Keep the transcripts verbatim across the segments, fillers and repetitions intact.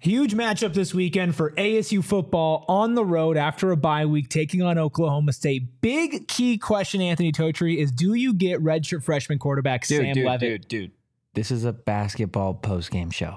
Huge matchup this weekend for A S U football on the road after a bye week, taking on Oklahoma State. Big key question, Anthony Totri, is do you get redshirt freshman quarterback dude, Sam dude, Levitt? Dude, dude, this is a basketball postgame show.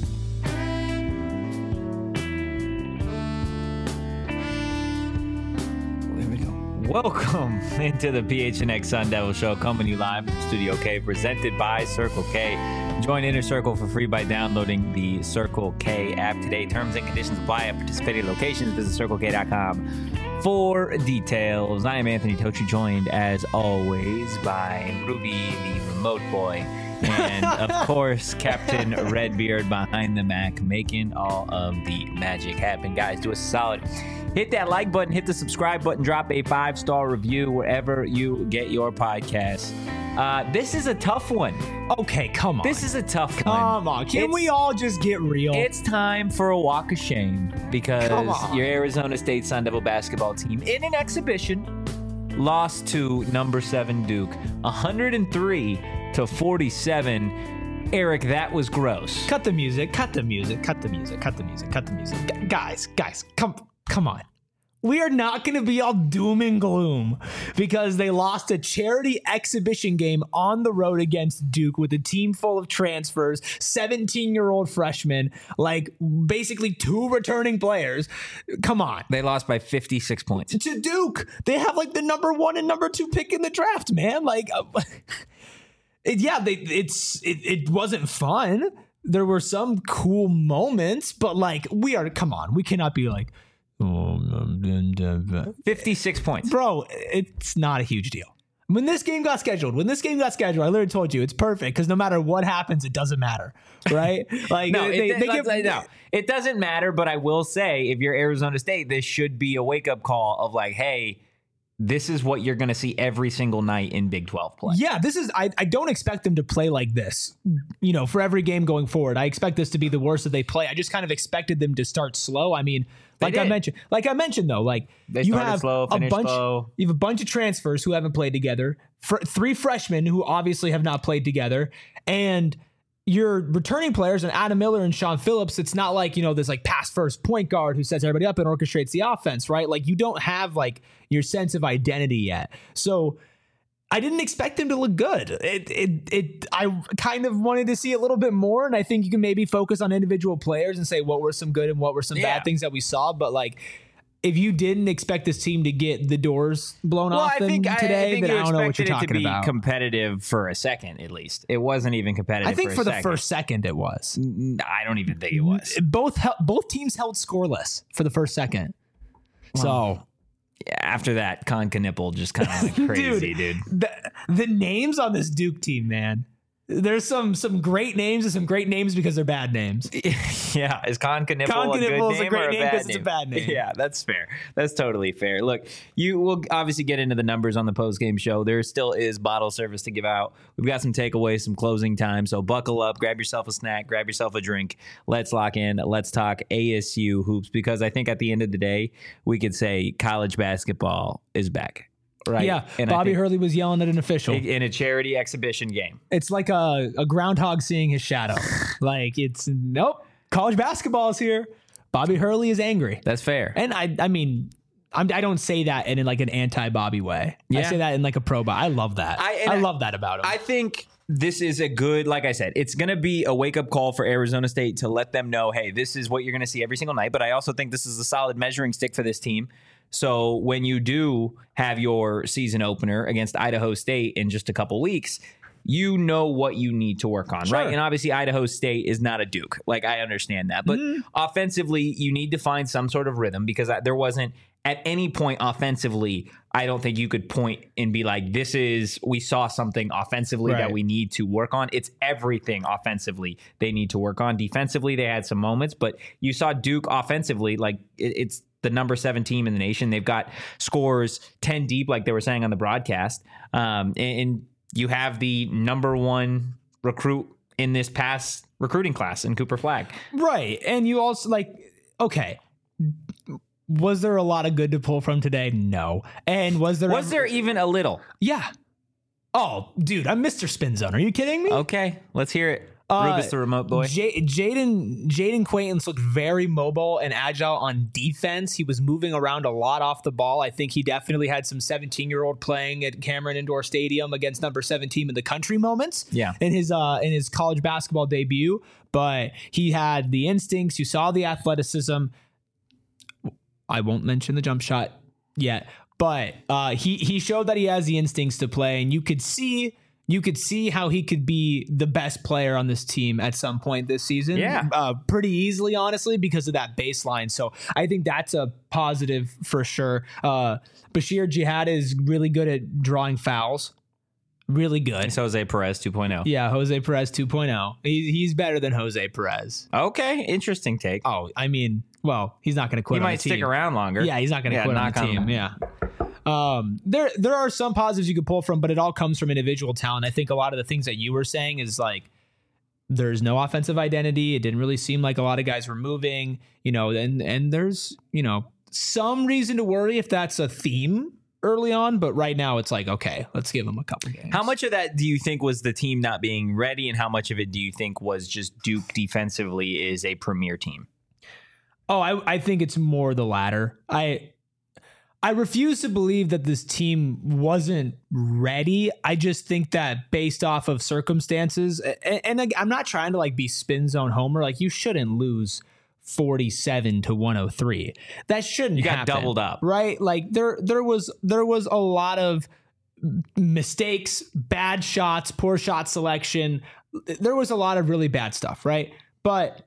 There we go. Welcome into the P H N X Sun Devil Show, coming to you live from Studio K, presented by Circle K. Join Inner Circle for free by downloading the Circle K app today. Terms and conditions apply at participating locations. Visit circle k dot com for details. I am Anthony Totri, joined as always by Ruby, the remote boy, and of course, Captain Redbeard behind the Mac, making all of the magic happen. Guys, do us a solid. Hit that like button, hit the subscribe button, drop a five-star review wherever you get your podcasts. Uh, this is a tough one. Okay, come on. This is a tough come one. Come on. Can it's, we all just get real? It's time for a walk of shame because your Arizona State Sun Devil basketball team, in an exhibition, lost to number seven Duke, one hundred three to forty-seven. Eric, that was gross. Cut the music. Cut the music. Cut the music. Cut the music. Cut the music. Gu- guys, guys, come, come on. We are not going to be all doom and gloom because they lost a charity exhibition game on the road against Duke with a team full of transfers, seventeen-year-old freshmen, like basically two returning players. Come on. They lost by fifty-six points. To Duke. They have like the number one and number two pick in the draft, man. Like, uh, it, yeah, they, it's it, it wasn't fun. There were some cool moments, but like, we are, come on. We cannot be like, fifty-six points. Bro, it's not a huge deal. When this game got scheduled, when this game got scheduled, I literally told you it's perfect because no matter what happens, it doesn't matter, right? Like no, they, it, they give, no, it doesn't matter. But I will say, if you're Arizona State, this should be a wake up call of like, hey, this is what you're going to see every single night in Big twelve play. Yeah, this is, I, I don't expect them to play like this, you know, for every game going forward. I expect this to be the worst that they play. I just kind of expected them to start slow. I mean, like I mentioned, like I mentioned though, like they you have slow, a bunch, slow. you have a bunch of transfers who haven't played together, fr- three freshmen who obviously have not played together, and your returning players and Adam Miller and Sean Phillips. It's not like, you know, this like pass first point guard who sets everybody up and orchestrates the offense, right? Like you don't have like your sense of identity yet. So I didn't expect them to look good. It, it, it, I kind of wanted to see a little bit more. And I think you can maybe focus on individual players and say what were some good and what were some yeah. bad things that we saw. But like, if you didn't expect this team to get the doors blown well, off I them think, today, I think then you I don't know what you're expected talking it to be about. Competitive for a second, at least. It wasn't even competitive. I think for, for a the second. first second it was. I don't even think it was. Both both teams held scoreless for the first second. Wow. So yeah, after that, Con Knipple just kind of went crazy, dude. dude. The, the names on this Duke team, man. There's some some great names and some great names because they're bad names. Yeah, is Con Knipple Con a good Knipple is name a great or a name bad because name? it's a bad name. Yeah, that's fair. That's totally fair. Look, you will obviously get into the numbers on the post-game show. There still is bottle service to give out. We've got some takeaways, some closing time. So buckle up, grab yourself a snack, grab yourself a drink. Let's lock in. Let's talk A S U hoops because I think at the end of the day, we could say college basketball is back. Right. Yeah, and Bobby Hurley was yelling at an official in a charity exhibition game. It's like a, a groundhog seeing his shadow. Like it's nope. College basketball is here. Bobby Hurley is angry. That's fair. And I, I mean, I'm, I don't say that in, in like an anti-Bobby way. Yeah. I say that in like a pro. I love that. I, I love that about him. I think this is a good, like I said, it's going to be a wake-up call for Arizona State to let them know, hey, this is what you're going to see every single night. But I also think this is a solid measuring stick for this team. So when you do have your season opener against Idaho State in just a couple weeks, you know what you need to work on, sure. right? And obviously Idaho State is not a Duke. Like, I understand that. But mm. offensively, you need to find some sort of rhythm because there wasn't at any point offensively, I don't think you could point and be like, this is, we saw something offensively right. that we need to work on. It's everything offensively they need to work on. Defensively, they had some moments, but you saw Duke offensively, like it, it's, the number seven team in the nation. They've got scores ten deep, like they were saying on the broadcast. Um, and, and you have the number one recruit in this past recruiting class in Cooper Flagg. Right. And you also like, okay, was there a lot of good to pull from today? No. And was there, was there even a little? Yeah. Oh, dude, I'm Mister Spin Zone. Are you kidding me? Okay, let's hear it. Uh, Rubus the remote boy. J- Jaden Jaden Quaintance looked very mobile and agile on defense. He was moving around a lot off the ball. I think he definitely had some seventeen-year-old playing at Cameron Indoor Stadium against number seventeen in the country moments. Yeah. in his uh, in his college basketball debut. But he had the instincts. You saw the athleticism. I won't mention the jump shot yet, but uh, he he showed that he has the instincts to play, and you could see. You could see how he could be the best player on this team at some point this season. Yeah. Uh, pretty easily, honestly, because of that baseline. So I think that's a positive for sure. Uh, Bashir Jihad is really good at drawing fouls. Really good. It's Jose Perez two point oh. Yeah, Jose Perez two point oh. He, he's better than Jose Perez. Okay, interesting take. Oh, I mean, well, he's not going to quit He on might the team. stick around longer. Yeah, he's not going to Yeah, quit on knock the on team. wood. Yeah. Um, there there are some positives you could pull from, but it all comes from individual talent. I think a lot of the things that you were saying is like there's no offensive identity. It didn't really seem like a lot of guys were moving, you know, and and there's, you know, some reason to worry if that's a theme early on, but right now it's like, okay, let's give them a couple games. How much of that do you think was the team not being ready, and how much of it do you think was just Duke defensively is a premier team? Oh, I, I think it's more the latter. I I refuse to believe that this team wasn't ready. I just think that based off of circumstances, and, and like, I'm not trying to like be spin zone homer. Like you shouldn't lose forty-seven to one oh three. That shouldn't You got happen, doubled up. right? Like there there was there was a lot of mistakes, bad shots, poor shot selection. There was a lot of really bad stuff, right? But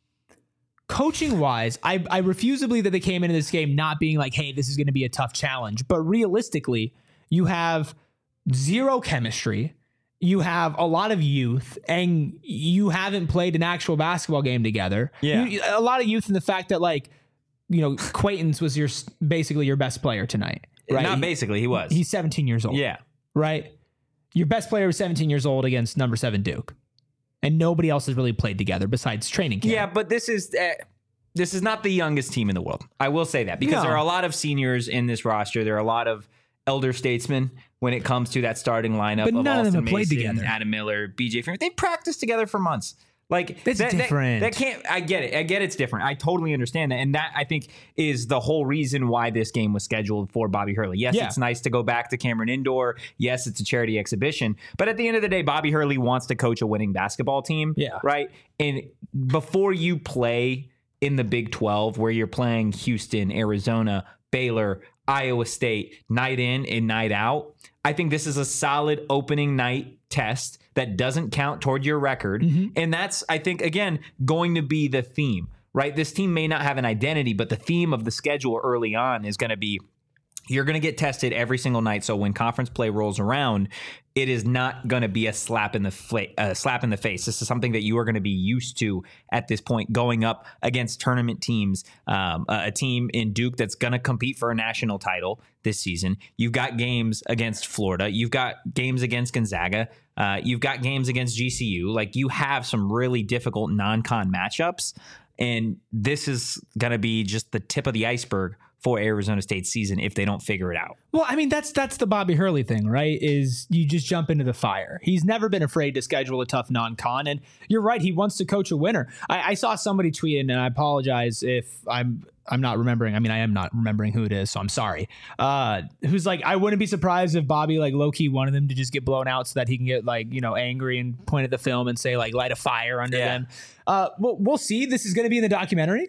coaching wise, I, I refuse to believe that they came into this game not being like, hey, this is going to be a tough challenge. But realistically, you have zero chemistry. You have a lot of youth, and you haven't played an actual basketball game together. Yeah. You, a lot of youth in the fact that, like, you know, Quaintance was your basically your best player tonight. Right? Not basically, he was. He's seventeen years old. Yeah. Right? Your best player was seventeen years old against number seven Duke. And nobody else has really played together besides training camp. Yeah, but this is uh, this is not the youngest team in the world. I will say that because No. there are a lot of seniors in this roster. There are a lot of elder statesmen when it comes to that starting lineup. But of none of them Austin have played Mason, together. Adam Miller, B J Freeman. They practiced together for months. Like That's that, that- different. That, can't. I get it. I get it's different. I totally understand that, and that I think is the whole reason why this game was scheduled for Bobby Hurley. Yes, Yeah. it's nice to go back to Cameron Indoor. Yes, it's a charity exhibition, but at the end of the day, Bobby Hurley wants to coach a winning basketball team. Yeah. Right. And before you play in the Big twelve, where you're playing Houston, Arizona, Baylor, Iowa State, night in and night out, I think this is a solid opening night test that doesn't count toward your record. And that's, I think, again, going to be the theme, right? This team may not have an identity, but the theme of the schedule early on is going to be you're going to get tested every single night. So when conference play rolls around, it is not going to be a slap in the fla- uh, slap in the face. This is something that you are going to be used to at this point, going up against tournament teams, um, a, a team in Duke that's going to compete for a national title this season. You've got games against Florida. You've got games against Gonzaga. Uh, you've got games against G C U. Like you have some really difficult non-con matchups, and this is going to be just the tip of the iceberg for Arizona State's season if they don't figure it out. Well, I mean, that's that's the Bobby Hurley thing, right? Is you just jump into the fire. He's never been afraid to schedule a tough non-con, and you're right. He wants to coach a winner. I, I saw somebody tweet, and I apologize if I'm I'm not remembering. I mean, I am not remembering who it is, so I'm sorry. Uh, who's like, I wouldn't be surprised if Bobby like low key wanted them to just get blown out so that he can get like you know angry and point at the film and say like light a fire under Yeah. them. Uh, we'll, we'll see. This is going to be in the documentary,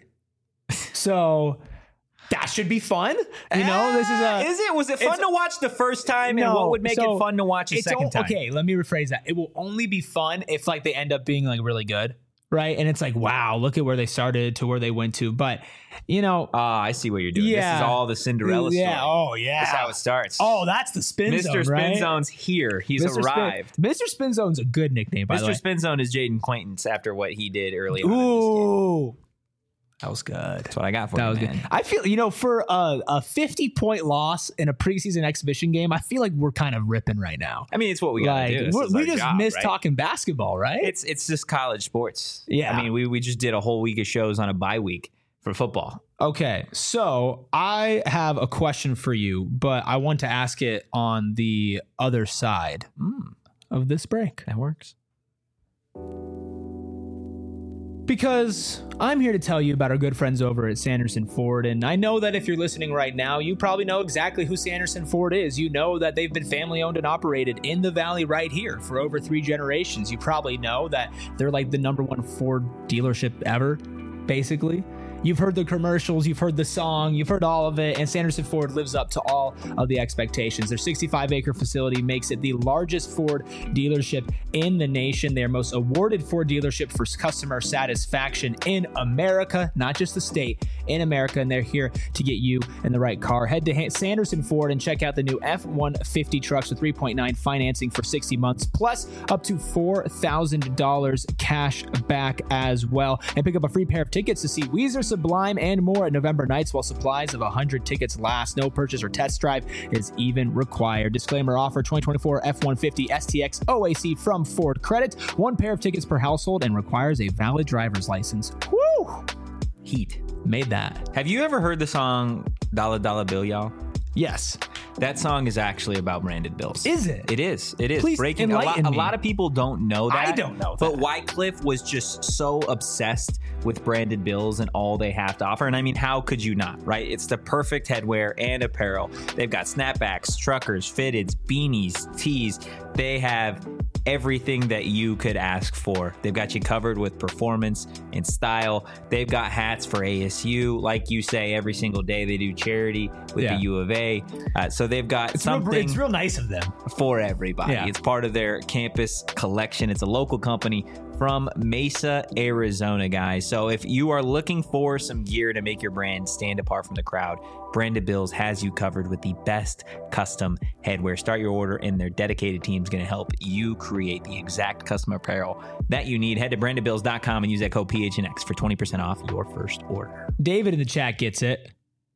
so. That should be fun. You know, this is a. Is it? Was it fun it's- to watch the first time? No, and what would make so it fun to watch a it's second o- time? Okay, let me rephrase that. It will only be fun if like they end up being like really good, right? And it's like, wow, look at where they started to where they went to. But you know, Ah, I see what you're doing. This Yeah. is all the Cinderella story. yeah, oh yeah, That's how it starts. oh, that's the spin Mister zone, right? Spin Zone's here. He's Mister Spin- arrived. Mister Spin Zone's a good nickname, by the Mister way. Spin Zone is Jaden Quaintance after what he did early on in this game. Ooh, that was good. That's what I got for That you, was man. good. I feel, you know, for a, a fifty point loss in a preseason exhibition game, I feel like we're kind of ripping right now. I mean, it's what we got to Like do. This we're- is we our just job, miss right? talking basketball, right? It's it's just college sports. Yeah. I mean, we, we just did a whole week of shows on a bye week for football. Okay, so I have a question for you, but I want to ask it on the other side Mm, of this break. that works. Because I'm here to tell you about our good friends over at Sanderson Ford, and I know that if you're listening right now, you probably know exactly who Sanderson Ford is. You know that they've been family owned and operated in the Valley right here for over three generations. You probably know that they're like the number one Ford dealership ever, basically. You've heard the commercials, you've heard the song, you've heard all of it, and Sanderson Ford lives up to all of the expectations. Their sixty-five acre facility makes it the largest Ford dealership in the nation. They are most awarded Ford dealership for customer satisfaction in America, not just the state, in America, and they're here to get you in the right car. Head to Sanderson Ford and check out the new F one fifty trucks with three point nine financing for sixty months, plus up to four thousand dollars cash back as well. And pick up a free pair of tickets to see Weezer, Sublime, and more at November nights while supplies of one hundred tickets last. No purchase or test drive is even required. Disclaimer: offer twenty twenty-four F one fifty S T X O A C from Ford Credit. One pair of tickets per household and requires a valid driver's license. Woo! Heat. Made that. Have you ever heard the song Dollar Dollar Bill, y'all? Yes. That song is actually about branded bills. Is it? It is. It is. Please Breaking a lot, enlighten a me. lot of people don't know that. I don't know But that. Wycliffe was just so obsessed with branded bills and all they have to offer. And I mean, how could you not, right? It's the perfect headwear and apparel. They've got snapbacks, truckers, fitteds, beanies, tees. They have everything that you could ask for. They've got you covered with performance and style. They've got hats for A S U. Like you say, every single day they do charity with Yeah. the U of A. Uh, so they've got It's something real, it's real nice of them. for everybody. Yeah. It's part of their campus collection. It's a local company from Mesa, Arizona, guys. So if you are looking for some gear to make your brand stand apart from the crowd, Branded Bills has you covered with the best custom headwear. Start your order and their dedicated team is going to help you create the exact custom apparel that you need. Head to branded bills dot com and use that code P H N X for twenty percent off your first order. David in the chat gets it.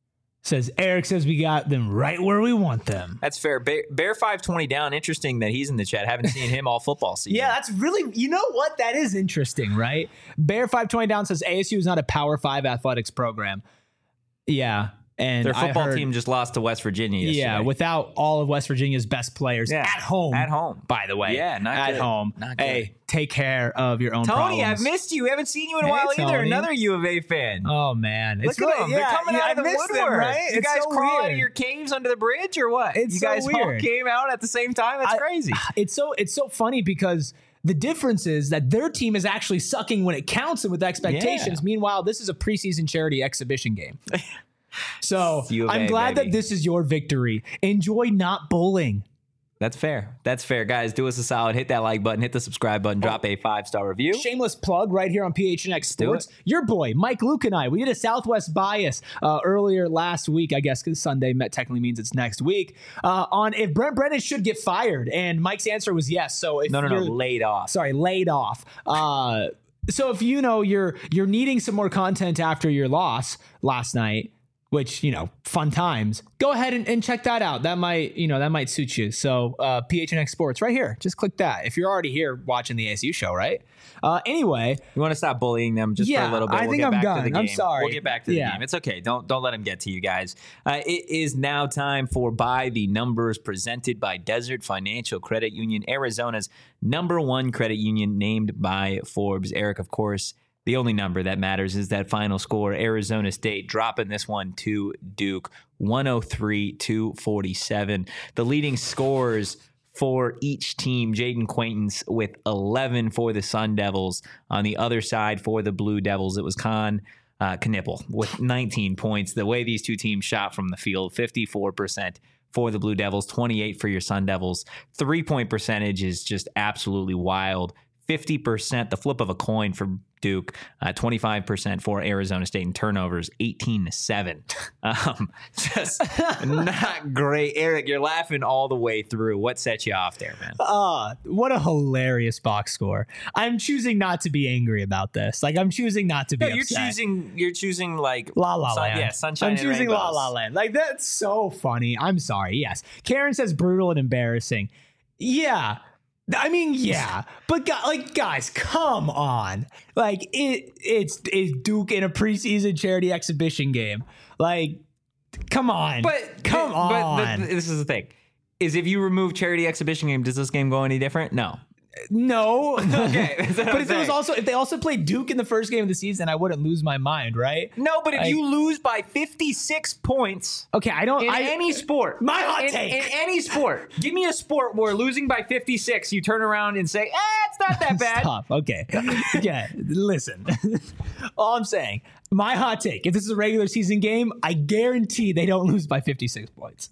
Says, Eric says we got them right where we want them. That's fair. Bear, Bear five twenty down. Interesting that he's in the chat. Haven't seen him all football season. Yeah, that's really, you know what? That is interesting, right? Bear five twenty down says A S U is not a Power five athletics program. Yeah. And Their I football heard- team just lost to West Virginia yesterday. Yeah, without all of West Virginia's best players Yeah. at home. At home. By the way. Yeah, not at good. home. Not good. Hey, take care of your own Tony, problems. I've missed you. We haven't seen you in a Hey, while either. Tony. Another U of A fan. Oh man, Look it's at really, them. Yeah, They're coming yeah, out of I the missed woodwork. them, right? You It's guys so crawl out weird. of your caves under the bridge or what? It's you so guys all weird. came out at the same time? That's I- crazy. It's so it's so funny because the difference is that their team is actually sucking when it counts and with expectations. Yeah. Meanwhile, this is a preseason charity exhibition game. So U of I'm A, glad baby. that this is your victory. Enjoy not bowling. That's fair. That's fair. Guys, do us a solid. Hit that like button. Hit the subscribe button. Drop a five-star review. Shameless plug right here on P H N X do Sports. Your boy, Mike Luke and I, we did a Southwest bias uh, earlier last week, I guess, because Sunday met technically means it's next week, uh, on if Brent Brennan should get fired. And Mike's answer was yes. So if No, no, no. you're- Laid off. sorry, laid off. Uh, so if you know you're you're needing some more content after your loss last night, which, you know, fun times, go ahead and, and check that out. That might, you know, that might suit you. So uh, P H N X Sports right here. Just click that if you're already here watching the A S U show, right? Uh, anyway, You want to stop bullying them just Yeah, for a little bit. I We'll think get I'm back done. To the I'm game. sorry. We'll get back to the Yeah. game. It's okay. Don't don't let them get to you guys. Uh, it is now time for By the Numbers, presented by Desert Financial Credit Union, Arizona's number one credit union, named by Forbes. Eric, of course, the only number that matters is that final score. Arizona State dropping this one to Duke, one oh three to forty-seven. The leading scorers for each team: Jaden Quaintance with eleven for the Sun Devils. On the other side for the Blue Devils, it was Con uh, Knipple with nineteen points. The way these two teams shot from the field, fifty-four percent for the Blue Devils, twenty-eight for your Sun Devils. Three-point percentage is just absolutely wild. fifty percent, the flip of a coin for Duke, uh, twenty-five percent for Arizona State, and turnovers eighteen to seven. Um, just not great. Eric, you're laughing all the way through. What set you off there, man? uh, what a hilarious box score. I'm choosing not to be angry about this. Like, I'm choosing not to be No, you're upset. choosing. You're choosing like La La sun- Land. Yeah, sunshine. I'm and choosing La rainbows. La Land. Like, that's so funny. I'm sorry. Yes. Karen says brutal and embarrassing. Yeah. I mean, yeah, but gu- like, guys, come on! Like, it, it's it's Duke in a preseason charity exhibition game. Like, come on! But come but, on! But the, this is the thing: is if you remove charity exhibition game, does this game go any different? No. No. Okay, that's what But I'm if it was saying. also if they also played Duke in the first game of the season, I wouldn't lose my mind, right? No, but if Like- you lose by fifty-six points Okay, I don't. in I, any sport, My hot in, take. in any sport, give me a sport where losing by fifty-six, you turn around and say, "Eh, it's not that bad." Stop. Okay. Yeah. Listen. All I'm saying, my hot take. If this is a regular season game, I guarantee they don't lose by fifty-six points.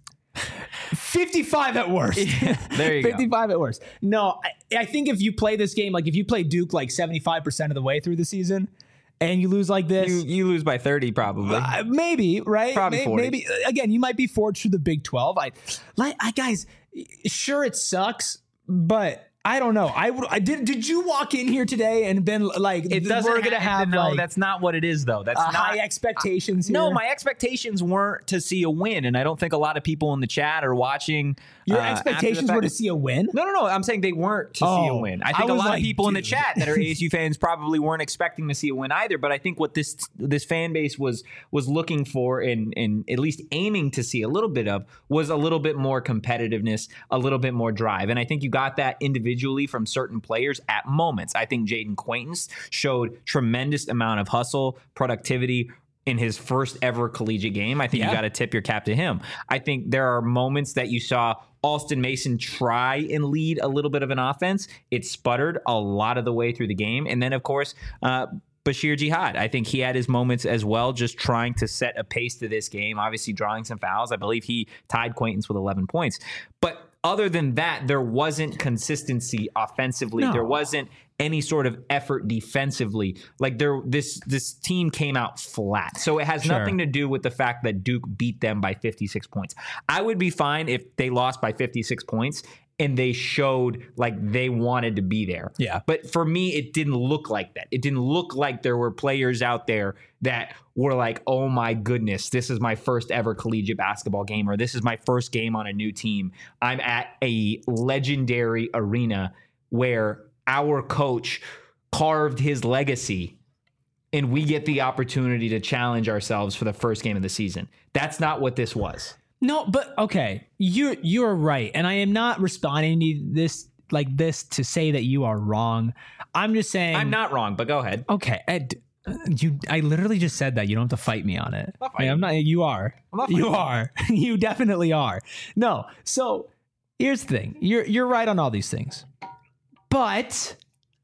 fifty-five at worst. There you go. fifty-five at worst. No, I, I think if you play this game, like if you play Duke like seventy-five percent of the way through the season and you lose like this, You you lose by thirty probably. uh, maybe, right? Probably May- forty. Maybe, again, you might be forged through the Big twelve. I, like, I guys, sure, it sucks, but I don't know. I, would- I did. Did you walk in here today and been like, It doesn't we're gonna have, have no, like that's not what it is though. That's uh, not high expectations here? No, my expectations weren't to see a win, and I don't think a lot of people in the chat are watching. Your uh, after the expectations fact- were to see a win. No, no, no. I'm saying they weren't to see a Oh, win. I I think a was lot like, of people in the dude. chat that are A S U fans probably weren't expecting to see a win either. But I think what this this fan base was was looking for and and at least aiming to see a little bit of was a little bit more competitiveness, a little bit more drive. And I think you got that individually from certain players at moments. I think Jaden Quaintance showed tremendous amount of hustle, productivity in his first ever collegiate game. I think Yeah. you got to tip your cap to him. I think there are moments that you saw Alston Mason try and lead a little bit of an offense. It sputtered a lot of the way through the game. And then, of course, uh, Bashir Jihad. I think he had his moments as well, just trying to set a pace to this game, obviously drawing some fouls. I believe he tied Quaintance with eleven points. But other than that, there wasn't consistency offensively. No. There wasn't any sort of effort defensively. Like there, this this team came out flat. So it has Sure. nothing to do with the fact that Duke beat them by fifty-six points. I would be fine if they lost by fifty-six points and they showed like they wanted to be there. Yeah. But for me, it didn't look like that. It didn't look like there were players out there that were like, oh my goodness, this is my first ever collegiate basketball game, or this is my first game on a new team. I'm at a legendary arena where our coach carved his legacy and we get the opportunity to challenge ourselves for the first game of the season. That's not what this was. No, but okay, you're you're right, and I am not responding to this like this to say that you are wrong. I'm just saying I'm not wrong, but go ahead. Okay, Ed, you. I literally just said that. You don't have to fight me on it. not I mean, I'm not. You are. I'm not you fighting are. You definitely are. No. So here's the thing. You're you're right on all these things, but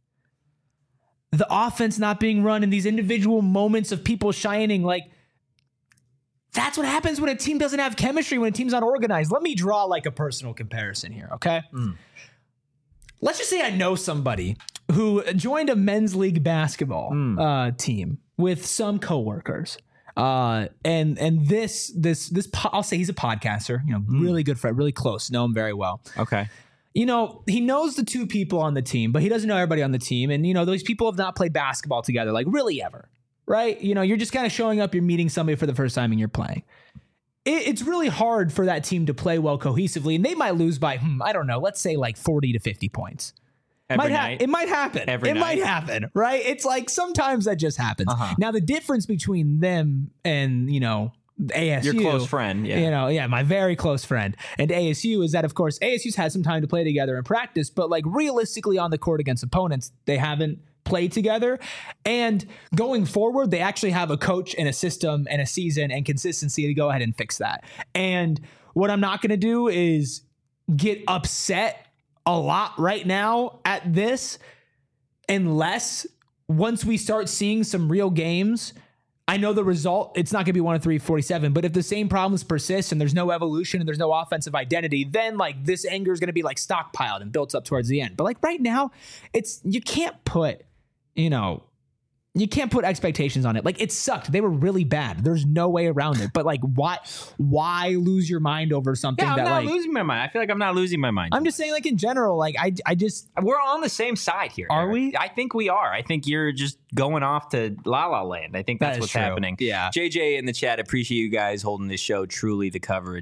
the offense not being run and these individual moments of people shining, like. That's what happens when a team doesn't have chemistry, when a team's not organized. Let me draw like a personal comparison here, okay? Mm. Let's just say I know somebody who joined a men's league basketball Mm. uh, team with some coworkers. Uh, and and this this this po- I'll say he's a podcaster, you know, Mm. really good friend, really close, know him very well. Okay. You know, he knows the two people on the team, but he doesn't know everybody on the team. And you know, those people have not played basketball together, like really ever. Right? You know, you're just kind of showing up, you're meeting somebody for the first time and you're playing. It, it's really hard for that team to play well cohesively, and they might lose by, hmm, I don't know, let's say like forty to fifty points. Every Might ha- night. it might happen. Every it might night. happen, right? It's like sometimes that just happens. Uh-huh. Now, the difference between them and, you know, A S U. Your close friend, yeah. You know, yeah, my very close friend. And A S U is that, of course, A S U's had some time to play together and practice, but like realistically on the court against opponents, they haven't played together. And going forward, they actually have a coach and a system and a season and consistency to go ahead and fix that. And what I'm not going to do is get upset a lot right now at this unless once we start seeing some real games. I know the result, it's not going to be one of three forty-seven, but if the same problems persist and there's no evolution and there's no offensive identity, then like this anger is going to be like stockpiled and built up towards the end. But like right now, it's, you can't put, you know, you can't put expectations on it. Like it sucked. They were really bad. There's no way around it. But like, why, why lose your mind over something Yeah, I'm that not like, losing my mind. I feel like I'm not losing my mind. I'm just saying like in general, like I, I just, We're on the same side here. Are Eric. we? I think we are. I think you're just going off to La La Land. I think That that's is what's true. happening. Yeah. J J in the chat, appreciate you guys holding this show. Truly the coverage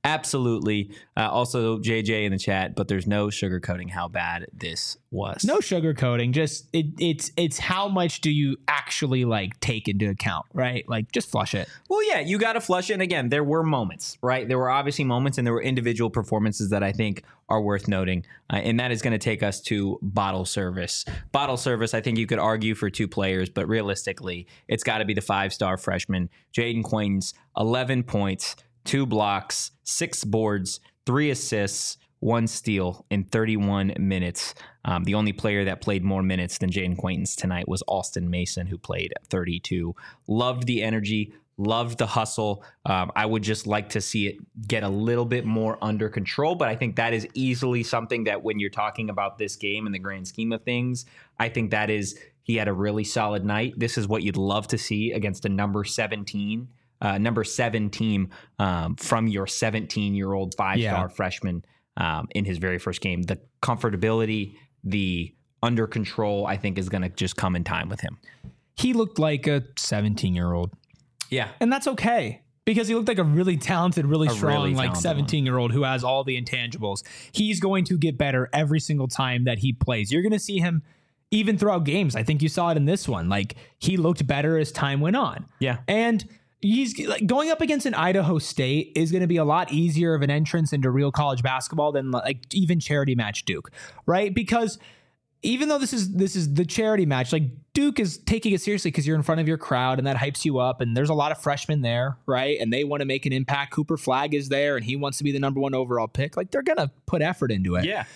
Absolutely. Uh, also, J J in the chat, but there's no sugarcoating how bad this was. No sugarcoating. Just it, it's it's how much do you actually like take into account, right? Like just flush it. Well, yeah, you got to flush it. And again, there were moments, right? There were obviously moments, and there were individual performances that I think are worth noting. Uh, and that is going to take us to bottle service. Bottle service, I think you could argue for two players, but realistically, it's got to be the five-star freshman, Jaden Quaintance, eleven points, two blocks, six boards, three assists, one steal in thirty-one minutes. Um, the only player that played more minutes than Jaden Quaintance tonight was Austin Mason, who played thirty-two. Loved the energy, loved the hustle. Um, I would just like to see it get a little bit more under control, but I think that is easily something that when you're talking about this game in the grand scheme of things, I think that is, he had a really solid night. This is what you'd love to see against a number seventeen Uh, number seven team um, from your seventeen-year-old five-star Yeah. freshman um, in his very first game. The comfortability, the under control, I think is going to just come in time with him. He looked like a seventeen-year-old. Yeah. And that's okay because he looked like a really talented, really A strong, really like talented seventeen-year-old who has all the intangibles. He's going to get better every single time that he plays. You're going to see him even throughout games. I think you saw it in this one. Like he looked better as time went on. Yeah. And he's like going up against an Idaho State is going to be a lot easier of an entrance into real college basketball than like even charity match Duke, right? Because even though this is this is the charity match, like Duke is taking it seriously because you're in front of your crowd and that hypes you up. And there's a lot of freshmen there, right? And they want to make an impact. Cooper Flagg is there and he wants to be the number one overall pick. Like they're going to put effort into it. Yeah.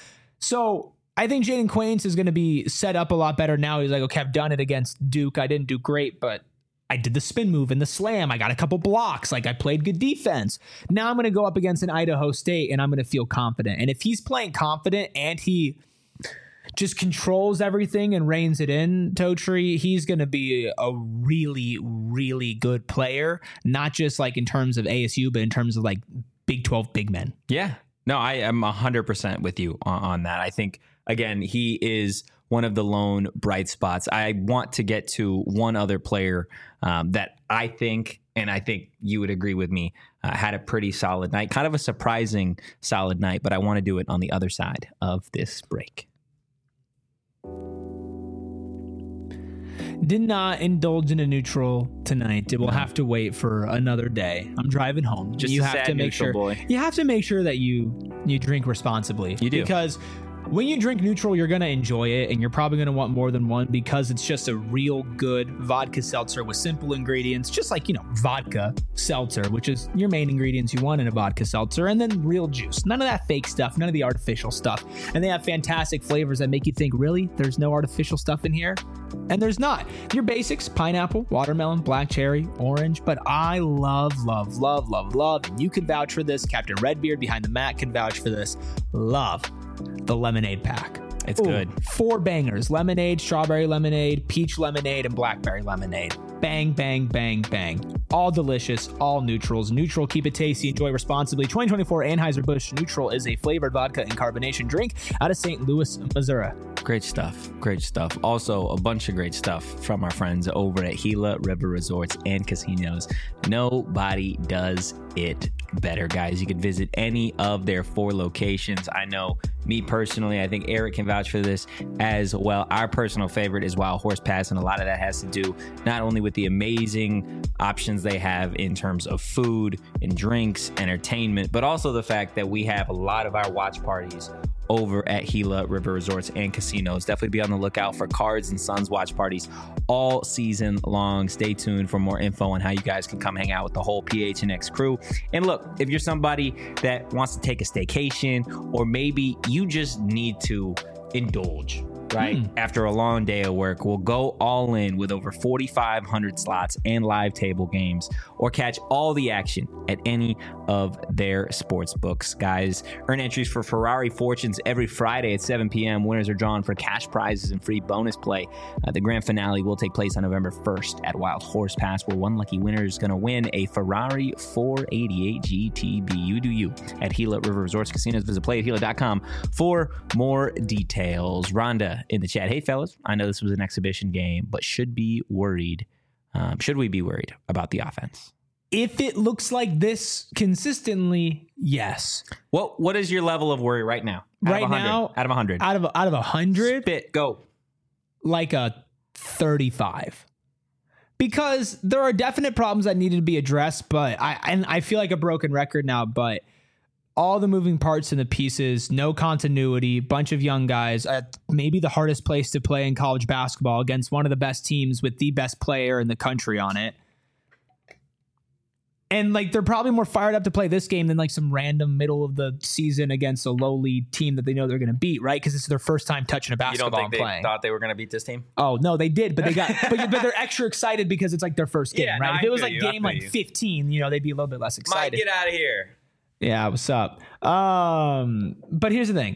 So I think Jaden Quaintance is going to be set up a lot better now. He's like, okay, I've done it against Duke. I didn't do great, but I did the spin move and the slam. I got a couple blocks. Like I played good defense. Now I'm going to go up against an Idaho State and I'm going to feel confident. And if he's playing confident and he just controls everything and reins it in, Totri, he's going to be a really, really good player. Not just like in terms of A S U, but in terms of like Big twelve big men. Yeah. No, I am one hundred percent with you on, on that. I think, again, he is one of the lone bright spots. I want to get to one other player um, that I think, and I think you would agree with me, uh, had a pretty solid night, kind of a surprising solid night, but I want to do it on the other side of this break. Did not indulge in a neutral tonight. It will have to wait for another day. I'm driving home. Just you a have sad to make neutral sure boy. you have to make sure that you you drink responsibly. You do. Because when you drink neutral, you're going to enjoy it, and you're probably going to want more than one because it's just a real good vodka seltzer with simple ingredients, just like, you know, vodka seltzer, which is your main ingredients you want in a vodka seltzer, and then real juice. None of that fake stuff, none of the artificial stuff. And they have fantastic flavors that make you think, really? There's no artificial stuff in here? And there's not. Your basics, pineapple, watermelon, black cherry, orange, but I love, love, love, love, love, and you can vouch for this. Captain Redbeard behind the mat can vouch for this. Love the lemonade pack. It's Ooh, good. Four bangers: lemonade, strawberry lemonade, peach lemonade, and blackberry lemonade. Bang, bang, bang, bang. All delicious, all neutrals. Neutral, keep it tasty, enjoy responsibly. twenty twenty-four Anheuser-Busch Neutral is a flavored vodka and carbonation drink out of Saint Louis, Missouri. Great stuff. Great stuff. Also, a bunch of great stuff from our friends over at Gila River Resorts and Casinos. Nobody does it better, guys. You can visit any of their four locations. I know me personally, I think Eric can vouch for this as well. Our personal favorite is Wild Horse Pass, and a lot of that has to do not only with the amazing options they have in terms of food and drinks, entertainment, but also the fact that we have a lot of our watch parties over at Gila River Resorts and Casinos. Definitely be on the lookout for Cards and Sons watch parties all season long. Stay tuned for more info on how you guys can come hang out with the whole P H N X crew. And look, if you're somebody that wants to take a staycation, or maybe you just need to indulge, right? Hmm. After a long day of work, we'll go all in with over forty-five hundred slots and live table games, or catch all the action at any of their sports books. Guys, earn entries for Ferrari Fortunes every Friday at seven p.m. Winners are drawn for cash prizes and free bonus play. Uh, the grand finale will take place on November first at Wild Horse Pass, where one lucky winner is going to win a Ferrari four eighty-eight G T B. You do you at Gila River Resorts Casinos. Visit play at gila dot com for more details. Rhonda in the chat: hey fellas, I know this was an exhibition game, but should be worried um, should we be worried about the offense? if it looks like this consistently, yes. What What is your level of worry right now? Out Right of one hundred, now, out of one hundred. Out of out of a hundred, Spit, go. like a thirty-five. Because there are definite problems that needed to be addressed, but I and I feel like a broken record now, but all the moving parts and the pieces, no continuity, bunch of young guys, uh, maybe the hardest place to play in college basketball against one of the best teams with the best player in the country on it. And like they're probably more fired up to play this game than like some random middle of the season against a lowly team that they know they're going to beat, right? Because it's their first time touching a You basketball don't think and they playing. thought they were going to beat this team? Oh no, they did, but they got but, but they're extra excited because it's like their first game, Yeah, right? no, if I it was feel like you, I game feel like you. fifteen, you know, they'd be a little bit less Mike, excited. get out of here. Yeah, what's up? Um, but here's the thing.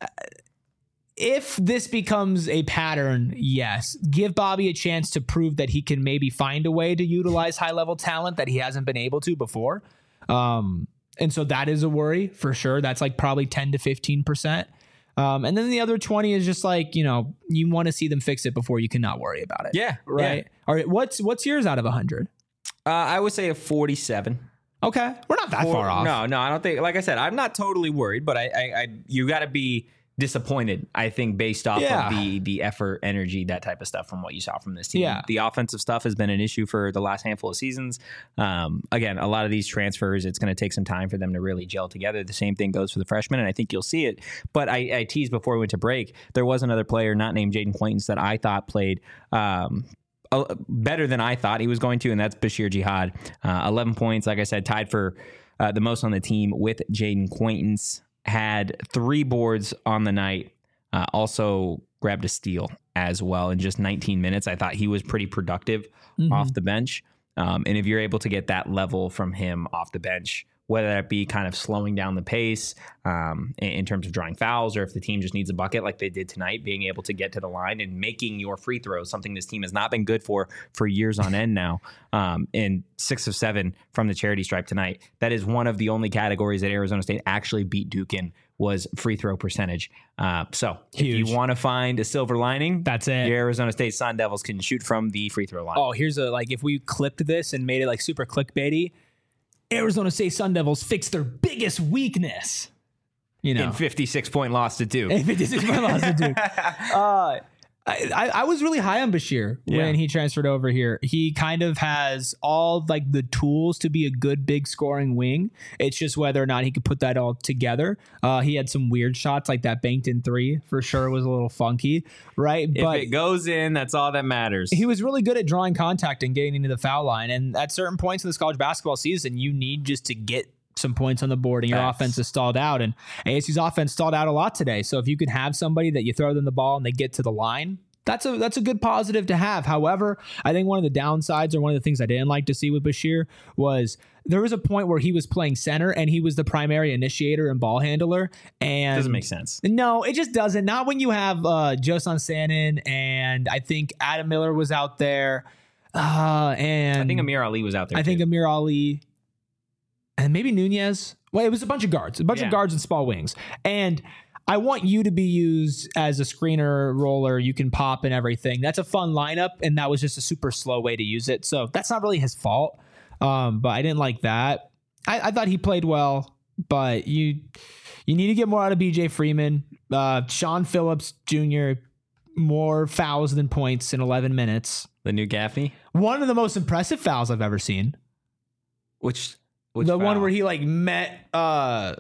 If this becomes a pattern, yes, give Bobby a chance to prove that he can maybe find a way to utilize high level talent that he hasn't been able to before. Um, and so that is a worry for sure. That's like probably ten to fifteen percent. Um, and then the other twenty is just like, you know, you want to see them fix it before you cannot worry about it. Yeah. Right. Yeah. All right. What's, what's yours out of a hundred? Uh, I would say a forty-seven. Okay. We're not that Or- far off. No, no, I don't think. Like I said, I'm not totally worried, but I, I, I you got to be disappointed. I think based off Yeah. of the the effort, energy, that type of stuff from what you saw from this team. Yeah. The offensive stuff has been an issue for the last handful of seasons. Um, again, a lot of these transfers, it's going to take some time for them to really gel together. The same thing goes for the freshmen, and I think you'll see it. But I, I teased before we went to break. There was another player not named Jaden Quaintance that I thought played. Um, Uh, better than I thought he was going to, and that's Bashir Jihad. Uh, eleven points, like I said, tied for uh, the most on the team with Jaden Quaintance. Had three boards on the night. Uh, also grabbed a steal as well in just nineteen minutes. I thought he was pretty productive Mhm. off the bench. Um, and if you're able to get that level from him off the bench, whether that be kind of slowing down the pace um, in, in terms of drawing fouls, or if the team just needs a bucket like they did tonight, being able to get to the line and making your free throws, something this team has not been good for for years on end now. Um, and six of seven from the charity stripe tonight. That is one of the only categories that Arizona State actually beat Duke in, was free throw percentage. Uh, so Huge. if you want to find a silver lining, That's it. your Arizona State Sun Devils can shoot from the free throw line. Oh, here's a, like, if we clipped this and made it like super clickbaity, Arizona State Sun Devils fixed their biggest weakness. You know, In fifty-six point loss to Duke. if it is my loss to Duke. Uh, I, I, I was really high on Bashir Yeah. when he transferred over here. He kind of has all like the tools to be a good big scoring wing. It's just whether or not he could put that all together. Uh, he had some weird shots, like that banked in three for sure was a little funky, right? If but it goes in, that's all that matters. he was really good at drawing contact and getting into the foul line. And at certain points in this college basketball season, you need just to get some points on the board, and your Facts. offense is stalled out. And A S U's offense stalled out a lot today. So if you can have somebody that you throw them the ball and they get to the line, that's a that's a good positive to have. However, I think one of the downsides, or one of the things I didn't like to see with Bashir, was there was a point where he was playing center and he was the primary initiator and ball handler. And Doesn't make sense. no, it just doesn't. Not when you have uh, Josan Sanin, and I think Adam Miller was out there. Uh, and I think Amir Ali was out there. I think too. Amir Ali and maybe Nunez. Well, it was a bunch of guards, a bunch Yeah. of guards and small wings. And I want you to be used as a screener roller. You can pop and everything. That's a fun lineup, and that was just a super slow way to use it. So that's not really his fault. Um, but I didn't like that. I, I thought he played well, but you you need to get more out of B J Freeman. Uh, Sean Phillips Junior, more fouls than points in eleven minutes. the new Gaffney, One of the most impressive fouls I've ever seen. which, which the one foul? where he like met uh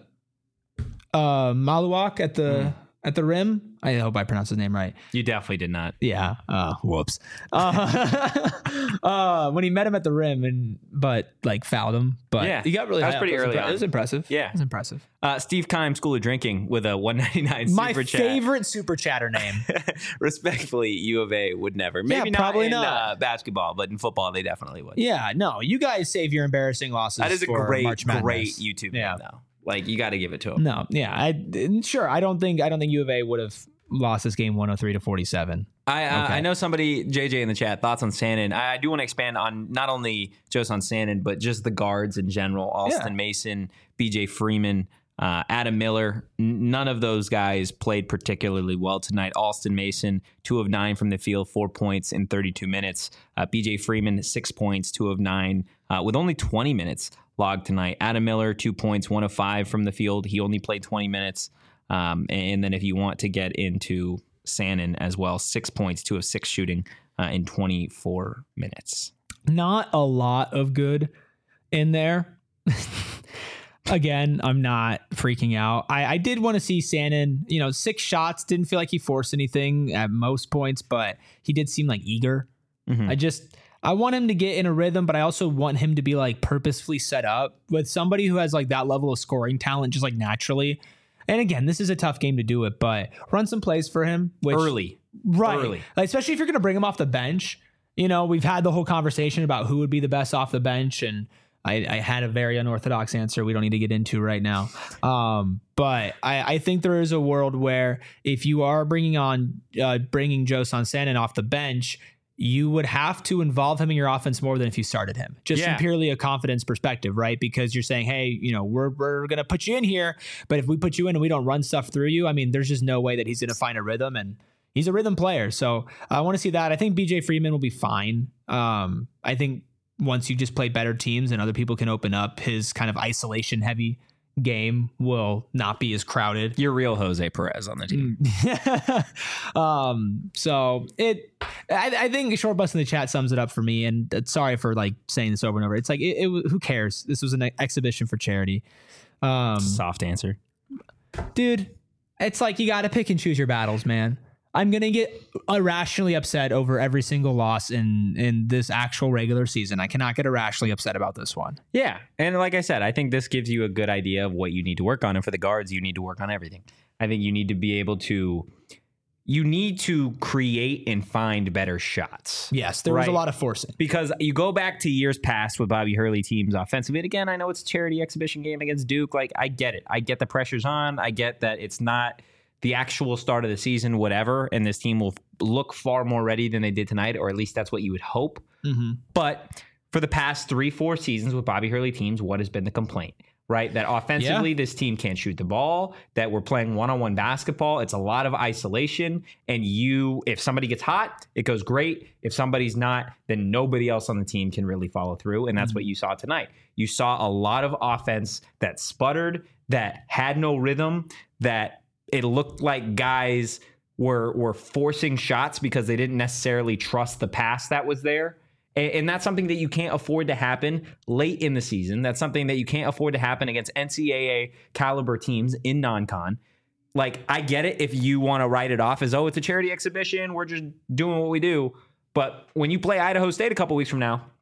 uh Maluak at the Mm. at the rim. I hope I pronounced his name right. you definitely did not. Yeah. Uh whoops. Uh, uh when he met him at the rim and but like fouled him. But Yeah. he got really That was high up. pretty It was early impre- on. It was impressive. Yeah. It was impressive. Uh, Steve Kime, School of Drinking, with a one ninety-nine My super chat. favorite super chatter name. Respectfully, U of A would never. Maybe not probably in not. Uh, basketball, but in football, they definitely would. Yeah, no, you guys save your embarrassing losses. That is a for great, March Madness. great YouTube Yeah. name, though. Like, you got to give it to him. No, yeah, I sure. I don't think I don't think U of A would have lost this game one oh three to forty-seven. I uh, Okay. I know somebody, J J in the chat, thoughts on Sannon. I, I do want to expand on not only Josan Sannon, but just the guards in general. Alston Yeah. Mason, B J Freeman. Uh, Adam Miller, n- none of those guys played particularly well tonight. Alston Mason, two of nine from the field, four points in thirty-two minutes. Uh, B J Freeman, six points, two of nine, uh, with only twenty minutes logged tonight. Adam Miller, two points, one of five from the field. He only played twenty minutes. Um, and then if you want to get into Sannon as well, six points, two of six shooting uh, in twenty-four minutes. Not a lot of good in there. Again, I'm not freaking out. I, I did want to see Sannon, you know, six shots. Didn't feel like he forced anything at most points, but he did seem like eager. Mm-hmm. I just, I want him to get in a rhythm, but I also want him to be like purposefully set up with somebody who has like that level of scoring talent, just like naturally. And again, this is a tough game to do it, but run some plays for him. Which, early. Right. Early. Like, especially if you're going to bring him off the bench. You know, we've had the whole conversation about who would be the best off the bench, and I, I had a very unorthodox answer we don't need to get into right now. Um, but I, I think there is a world where if you are bringing on uh, bringing Joson Sannon off the bench, you would have to involve him in your offense more than if you started him, just yeah. from purely a confidence perspective, right? Because you're saying, hey, you know, we're we're going to put you in here, but if we put you in and we don't run stuff through you, I mean, there's just no way that he's going to find a rhythm, and he's a rhythm player. So I want to see that. I think B J Freeman will be fine. Um, I think once you just play better teams and other people can open up, his kind of isolation heavy game will not be as crowded. You're real Jose Perez on the team. um, so it, I, I think Short Bus in the chat sums it up for me. And uh, sorry for like saying this over and over. It's like, it, it who cares? This was an exhibition for charity. Um, Soft answer, dude. It's like, you got to pick and choose your battles, man. I'm going to get irrationally upset over every single loss in, in this actual regular season. I cannot get irrationally upset about this one. Yeah. And like I said, I think this gives you a good idea of what you need to work on. And for the guards, you need to work on everything. I think you need to be able to, you need to create and find better shots. Yes, there right? was a lot of forcing. Because you go back to years past with Bobby Hurley teams offensively. And again, I know it's a charity exhibition game against Duke. Like, I get it. I get the pressure's on. I get that it's not the actual start of the season, whatever, and this team will look far more ready than they did tonight, or at least that's what you would hope. Mm-hmm. But for the past three, four seasons with Bobby Hurley teams, what has been the complaint, right? That offensively, yeah. this team can't shoot the ball, that we're playing one-on-one basketball. It's a lot of isolation, and you, if somebody gets hot, it goes great. If somebody's not, then nobody else on the team can really follow through, and that's mm-hmm. what you saw tonight. You saw a lot of offense that sputtered, that had no rhythm, that it looked like guys were were forcing shots because they didn't necessarily trust the pass that was there. And, and that's something that you can't afford to happen late in the season. That's something that you can't afford to happen against N C double A caliber teams in non-con. Like, I get it if you want to write it off as, oh, it's a charity exhibition, we're just doing what we do. But when you play Idaho State a couple weeks from now,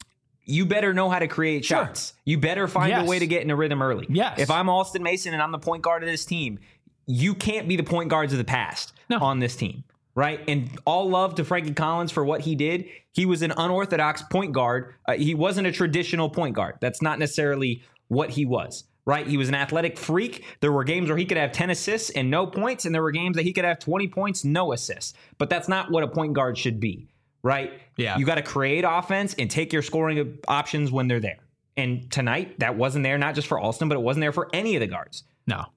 you better know how to create sure. shots. You better find yes. a way to get in a rhythm early. Yes. If I'm Alston Mason and I'm the point guard of this team, you can't be the point guards of the past no. on this team, right? And all love to Frankie Collins for what he did. He was an unorthodox point guard. Uh, he wasn't a traditional point guard. That's not necessarily what he was, right? He was an athletic freak. There were games where he could have ten assists and no points, and there were games that he could have twenty points, no assists. But that's not what a point guard should be, right? Yeah. You got to create offense and take your scoring options when they're there. And tonight, that wasn't there, not just for Alston, but it wasn't there for any of the guards. No.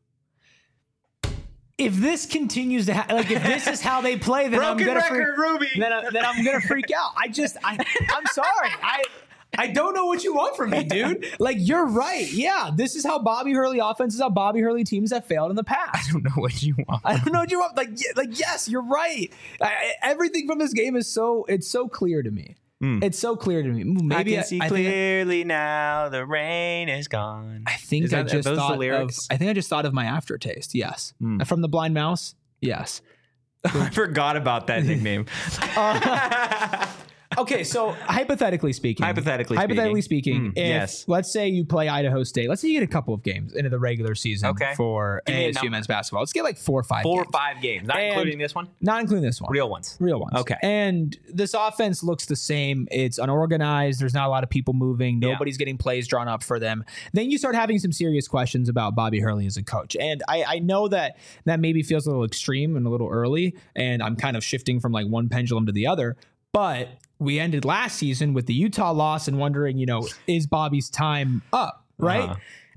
If this continues to ha- like, if this is how they play, then Broken I'm gonna record, freak, Ruby. Then, I, then I'm gonna freak out. I just, I, I'm sorry. I, I don't know what you want from me, dude. Like, you're right. Yeah, this is how Bobby Hurley offense is how Bobby Hurley teams have failed in the past. I don't know what you want. I don't know what you want. Like, like yes, you're right. I, everything from this game is so it's so clear to me. Mm. It's so clear to me. Maybe I can see I, I clearly I, now. The rain is gone. I think is I that, just thought the of. I think I just thought of my aftertaste. Yes, mm. from the Blind Mouse. Yes, I forgot about that nickname. uh, Okay, so hypothetically speaking, hypothetically, hypothetically speaking, speaking mm, if yes. let's say you play Idaho State, let's say you get a couple of games into the regular season okay. for A S U men's basketball. Let's get like four or five, four games. or five games, not and including this one, not including this one, real ones, real ones. Okay, and this offense looks the same. It's unorganized. There's not a lot of people moving. Nobody's yeah. getting plays drawn up for them. Then you start having some serious questions about Bobby Hurley as a coach. And I, I know that that maybe feels a little extreme and a little early, and I'm kind of shifting from like one pendulum to the other, but we ended last season with the Utah loss and wondering, you know, is Bobby's time up, right? Uh-huh.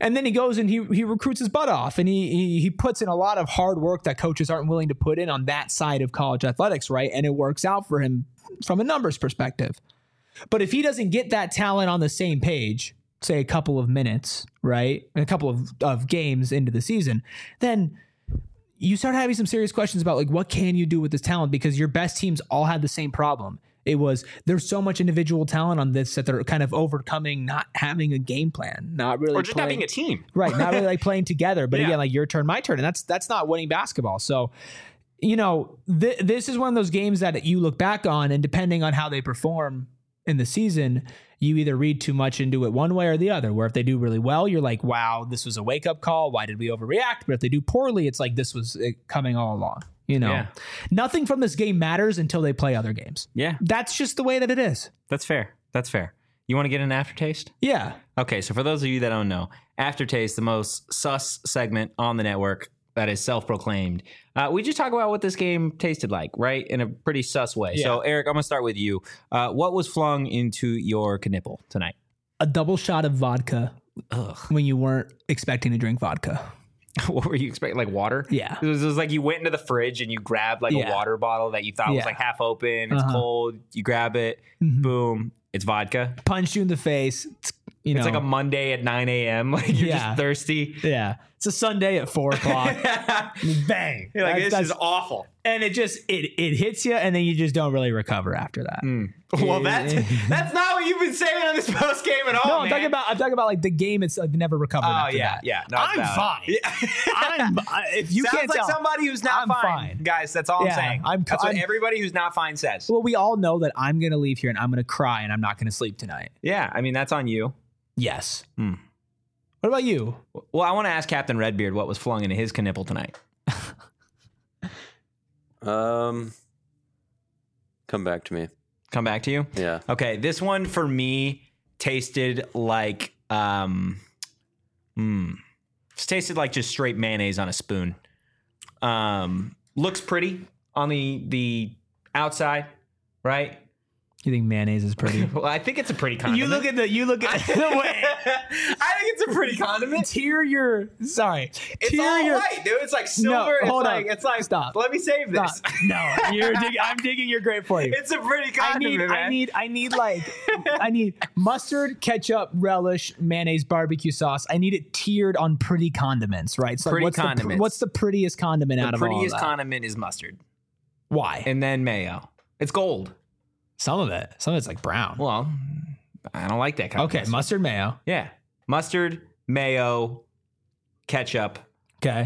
And then he goes and he he recruits his butt off, and he, he he puts in a lot of hard work that coaches aren't willing to put in on that side of college athletics, right? And it works out for him from a numbers perspective. But if he doesn't get that talent on the same page, say a couple of minutes, right, a couple of, of games into the season, then you start having some serious questions about like, what can you do with this talent? Because your best teams all had the same problem. It was, there's so much individual talent on this that they're kind of overcoming not having a game plan, not really, or just playing, not being a team, right? Not really like playing together. But Yeah. again, like your turn, my turn, and that's that's not winning basketball. So, you know, th- this is one of those games that you look back on, and depending on how they perform in the season, you either read too much into it one way or the other. Where if they do really well, you're like, wow, this was a wake up call. Why did we overreact? But if they do poorly, it's like this was it coming all along. You know, Yeah. nothing from this game matters until they play other games. Yeah, That's just the way that it is. that's fair. That's fair. You want to get an aftertaste? Yeah. Okay, so for those of you that don't know, Aftertaste, the most sus segment on the network that is self-proclaimed. Uh, we just talk about what this game tasted like, right? In a pretty sus way. Yeah. So, Eric, I'm going to start with you. Uh, what was flung into your knipple tonight? A double shot of vodka Ugh. when you weren't expecting to drink vodka. What were you expecting? Like water? Yeah. It was, it was like you went into the fridge and you grabbed like Yeah. a water bottle that you thought was Yeah. like half open. It's Uh-huh. cold. You grab it. Mhm. Boom. It's vodka. Punched you in the face. It's, you know, It's like a Monday at nine a.m. Like you're Yeah. just thirsty. yeah. It's a Sunday at four o'clock. Bang. You're like, That's- this that's- is awful. and it just it it hits you, and then you just don't really recover after that. Well, that's that's not what you've been saying on this post game at all. No, I'm man. talking about I'm talking about like the game. It's like never recovered. Oh after yeah, that. yeah. No, I'm it's fine. valid. Yeah. I'm, I- if you Sounds can't like tell, somebody who's not I'm fine. fine. guys. That's all Yeah, I'm saying. I'm- that's what I'm- everybody who's not fine says. well, we all know that I'm gonna leave here and I'm gonna cry and I'm not gonna sleep tonight. Yeah, I mean that's on you. Yes. Hmm. What about you? Well, I want to ask Captain Redbeard what was flung into his knipple tonight. Um, come back to me. Come back to you. Yeah. Okay, this one for me tasted like um, mm, it tasted like just straight mayonnaise on a spoon. Um, looks pretty on the the outside, right? You think mayonnaise is pretty? Well, I think it's a pretty condiment. You look at the you look at the way. I think it's a pretty condiment. Tear your sorry. It's tear all your, white, dude. It's like silver. it's hold like on. it's like Stop. Let me save this. Stop. No, you're dig- I'm digging your grave for you. It's a pretty I condiment, need, man. I need, I need like, I need mustard, ketchup, relish, mayonnaise, barbecue sauce. I need it tiered on pretty condiments, right? So Pretty what's The, condiments. pr- what's the prettiest condiment out the of all of prettiest that? condiment is mustard, Why? and then mayo. It's gold. Some of it, some of it's like brown. Well, I don't like that kind Okay, of mustard. mustard, mayo. Yeah, mustard, mayo, ketchup, Okay,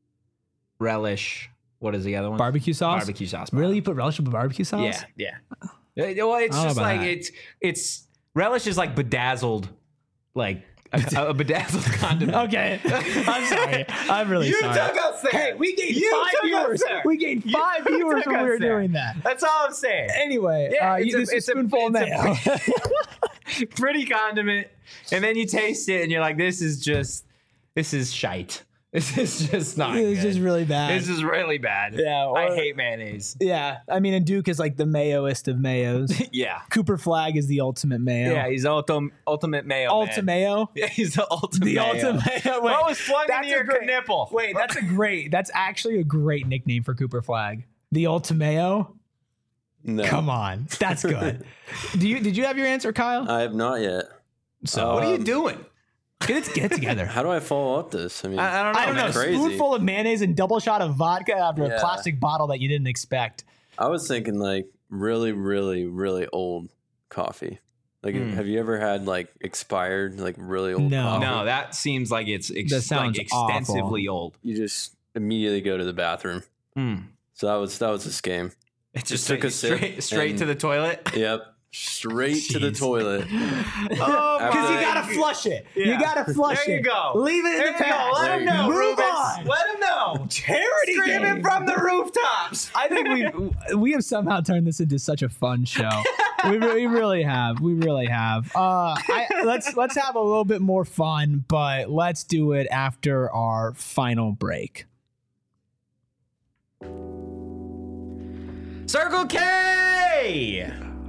relish. What is the other one? barbecue sauce. Barbecue sauce. Really, you put relish with barbecue sauce? Yeah, yeah. Uh, Well, it's I don't just know about like that. it's it's relish is like bedazzled, like a, a bedazzled condiment. Okay, I'm sorry. I'm really You sorry. took us there. Hey, we gained You five took us viewers. there. We gained You five viewers took when we us were there. doing that. That's all I'm saying. Anyway, Yeah, uh, it's you, a- this is it's a- spoonful of mayo. it's Pretty condiment, and then you taste it, and you're like, "This is just, this is shite. This is just not. It's good. just really bad. This is really bad. Yeah, I or- hate mayonnaise. Yeah, I mean, and Duke is like the mayoist of mayos. Yeah, Cooper Flag is the ultimate mayo. yeah. He's ultim, ultimate mayo. Ultimate man. mayo. Yeah, he's the ultimate. The mayo. ultimate mayo. Wait, What was flung that's into your a great- nipple? Wait, that's a great. That's actually a great nickname for Cooper Flag. The ultimayo. No. Come on, that's good. Do you? Did you have your answer, Kyle? I have not yet. So What are you Um, doing? get it, get it together. How do I follow up this? I mean, I, I don't know. I don't know. man. Crazy. Spoonful of mayonnaise and double shot of vodka after a Yeah. plastic bottle that you didn't expect. I was thinking like really, really, really old coffee. Like, Mm. have you ever had like expired, like really old No. coffee? No, that seems like it's ex- That sounds like extensively old. You just immediately go to the bathroom. Mm. So that was that was this game. It just Just took a sip straight, straight and- to the toilet. Yep. Straight to the Jeez. toilet. Oh, Because you my gotta flush it. Yeah. You gotta flush There it. you go. Leave it in There the you go. past. Let him There know, you go. Move Rubens. on. Let him know. Charity Screaming game. from the rooftops. I think we we have somehow turned this into such a fun show. we, re- we really have. We really have. Uh, I, let's let's have a little bit more fun, but let's do it after our final break. Circle K.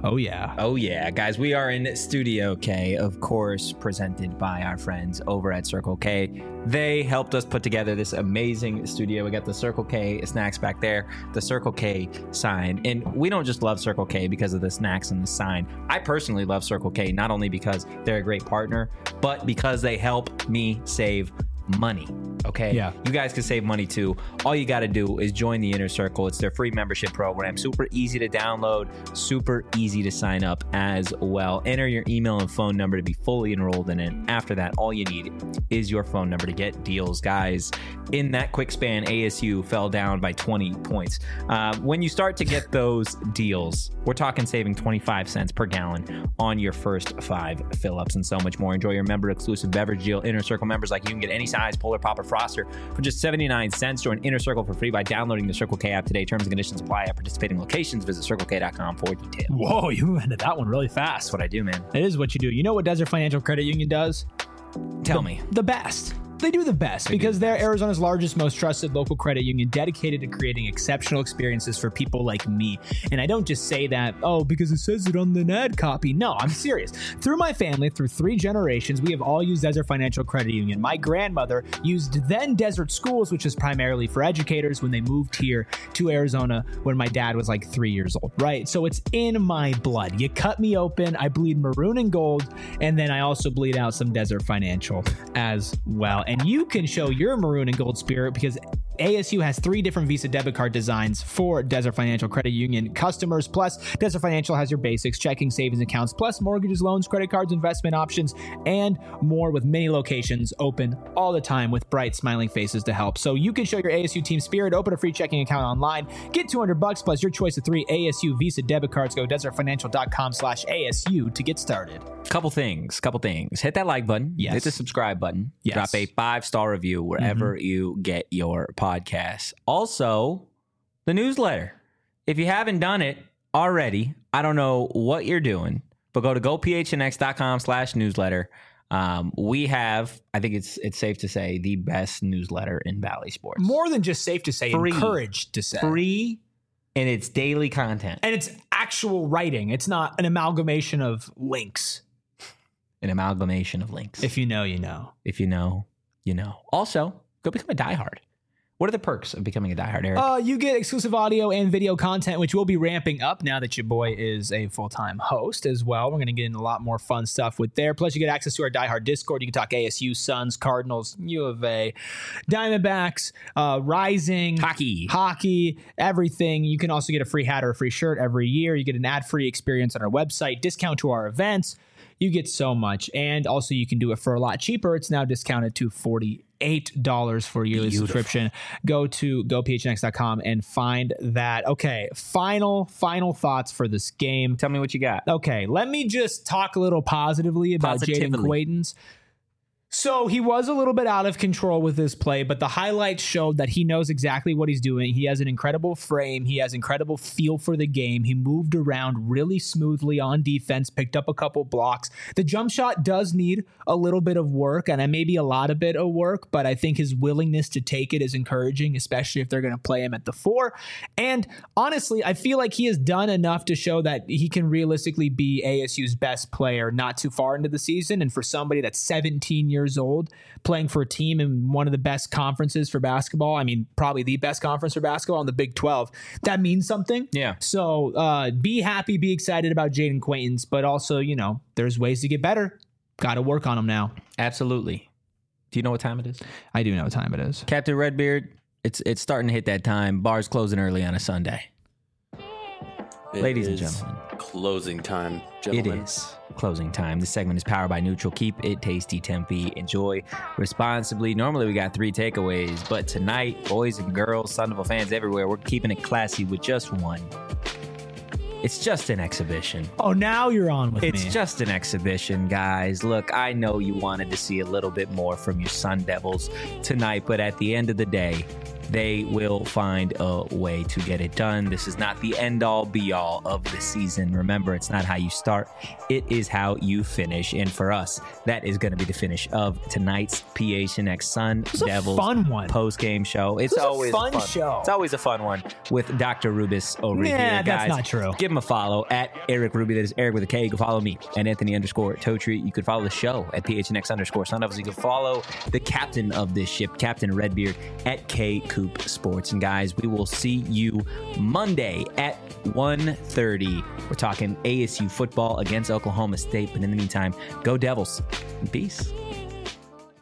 Oh, yeah. Oh, yeah. Guys, we are in Studio K, of course, presented by our friends over at Circle K. They helped us put together this amazing studio. We got the Circle K snacks back there, the Circle K sign. And we don't just love Circle K because of the snacks and the sign. I personally love Circle K, not only because they're a great partner, but because they help me save money. Okay. Yeah. You guys can save money too. All you got to do is join the Inner Circle. It's their free membership program. Super easy to download, super easy to sign up as well. Enter your email and phone number to be fully enrolled in it. After that, all you need is your phone number to get deals. Guys, in that quick span, A S U fell down by twenty points. Uh, when you start to get those deals, we're talking saving twenty-five cents per gallon on your first five fill-ups and so much more. Enjoy your member-exclusive beverage deal. Inner Circle members like you can get any size Polar Pop or Froster for just seventy-nine cents. Join Inner Circle for free by downloading the Circle K app today. Terms and conditions apply at participating locations. Visit circle k dot com for details. Whoa, you ended that one really fast. That's what I do, man. It is what you do. You know what Desert Financial Credit Union does? Tell the, me. The best. They do the best They because the they're best. Arizona's largest, most trusted local credit union dedicated to creating exceptional experiences for people like me. And I don't just say that, oh, because it says it on the ad copy. No, I'm serious. Through my family, through three generations, we have all used Desert Financial Credit Union. My grandmother used then Desert Schools, which is primarily for educators, when they moved here to Arizona when my dad was like three years old, right? So it's in my blood. You cut me open, I bleed maroon and gold, and then I also bleed out some Desert Financial as well. And you can show your maroon and gold spirit because A S U has three different Visa debit card designs for Desert Financial Credit Union customers. Plus, Desert Financial has your basics, checking, savings accounts, plus mortgages, loans, credit cards, investment options, and more, with many locations open all the time with bright, smiling faces to help. So you can show your A S U team spirit, open a free checking account online, get two hundred bucks plus your choice of three A S U Visa debit cards. Go desert financial dot com slash A S U to get started. Couple things, couple things. Hit that like button. Yes. Hit the subscribe button. Yes. Drop a five-star review wherever Mm-hmm. you get your podcasts. Also, the newsletter. If you haven't done it already, I don't know what you're doing, but go to go p h n x dot com slash newsletter. Um, we have, I think it's it's safe to say, the best newsletter in Valley Sports. More than just safe to say, Free. encouraged to say. Free, and it's daily content. And it's actual writing. It's not an amalgamation of links. An amalgamation of links. If you know, you know. If you know, you know. Also, go become a diehard. What are the perks of becoming a diehard, Eric? Uh, you get exclusive audio and video content, which will be ramping up now that your boy is a full-time host as well. We're going to get into a lot more fun stuff with there. Plus, you get access to our diehard Discord. You can talk A S U, Suns, Cardinals, U of A, Diamondbacks, uh, Rising, Hockey. hockey, everything. You can also get a free hat or a free shirt every year. You get an ad-free experience on our website, discount to our events. You get so much. And also, you can do it for a lot cheaper. It's now discounted to forty-eight dollars for a yearly Beautiful. subscription. Go to go p h n x dot com and find that. Okay, final, final thoughts for this game. Tell me what you got. Okay, let me just talk a little positively about Jaden Positively. Quaidens. So he was a little bit out of control with his play, but the highlights showed that he knows exactly what he's doing. He has an incredible frame. He has incredible feel for the game. He moved around really smoothly on defense, picked up a couple blocks. The jump shot does need a little bit of work, and maybe a lot of bit of work, but I think his willingness to take it is encouraging, especially if they're going to play him at the four. And honestly, I feel like he has done enough to show that he can realistically be A S U's best player not too far into the season. And for somebody that's seventeen years old, playing for a team in one of the best conferences for basketball, I mean, probably the best conference for basketball in the Big twelve, that means something. Yeah. So uh, be happy, be excited about Jaden Quaidens, but also, you know, there's ways to get better. Got to work on them now. Absolutely. Do you know what time it is? I do know what time it is. Captain Redbeard, it's it's starting to hit that time. Bars closing early on a Sunday. It Ladies and is gentlemen. Closing time, It gentlemen. is closing time. This segment is powered by Neutral. Keep it tasty, Tempe. Enjoy responsibly. Normally we got three takeaways, but tonight, boys and girls, Thunderbolt fans everywhere, we're keeping it classy with just one. It's just an exhibition. Oh, now you're on with It's me. just an exhibition, guys. Look, I know you wanted to see a little bit more from your Sun Devils tonight, but at the end of the day, they will find a way to get it done. This is not the end all be all of the season. Remember, it's not how you start, it is how you finish. And for us, that is going to be the finish of tonight's P H N X Sun Devils fun one. post game show. It's always a fun, fun show. It's always a fun one with Doctor Rubis over Yeah, here. that's Guys, not true. Give him a follow at Eric Ruby. That is Eric with a K. You can follow me at Anthony underscore Totri. You could follow the show at P H N X underscore Sun Devils. You can follow the captain of this ship, Captain Redbeard, at K Coop Sports. And guys, we will see you Monday at one thirty. We're talking A S U football against Oklahoma State. But in the meantime, go Devils. Peace.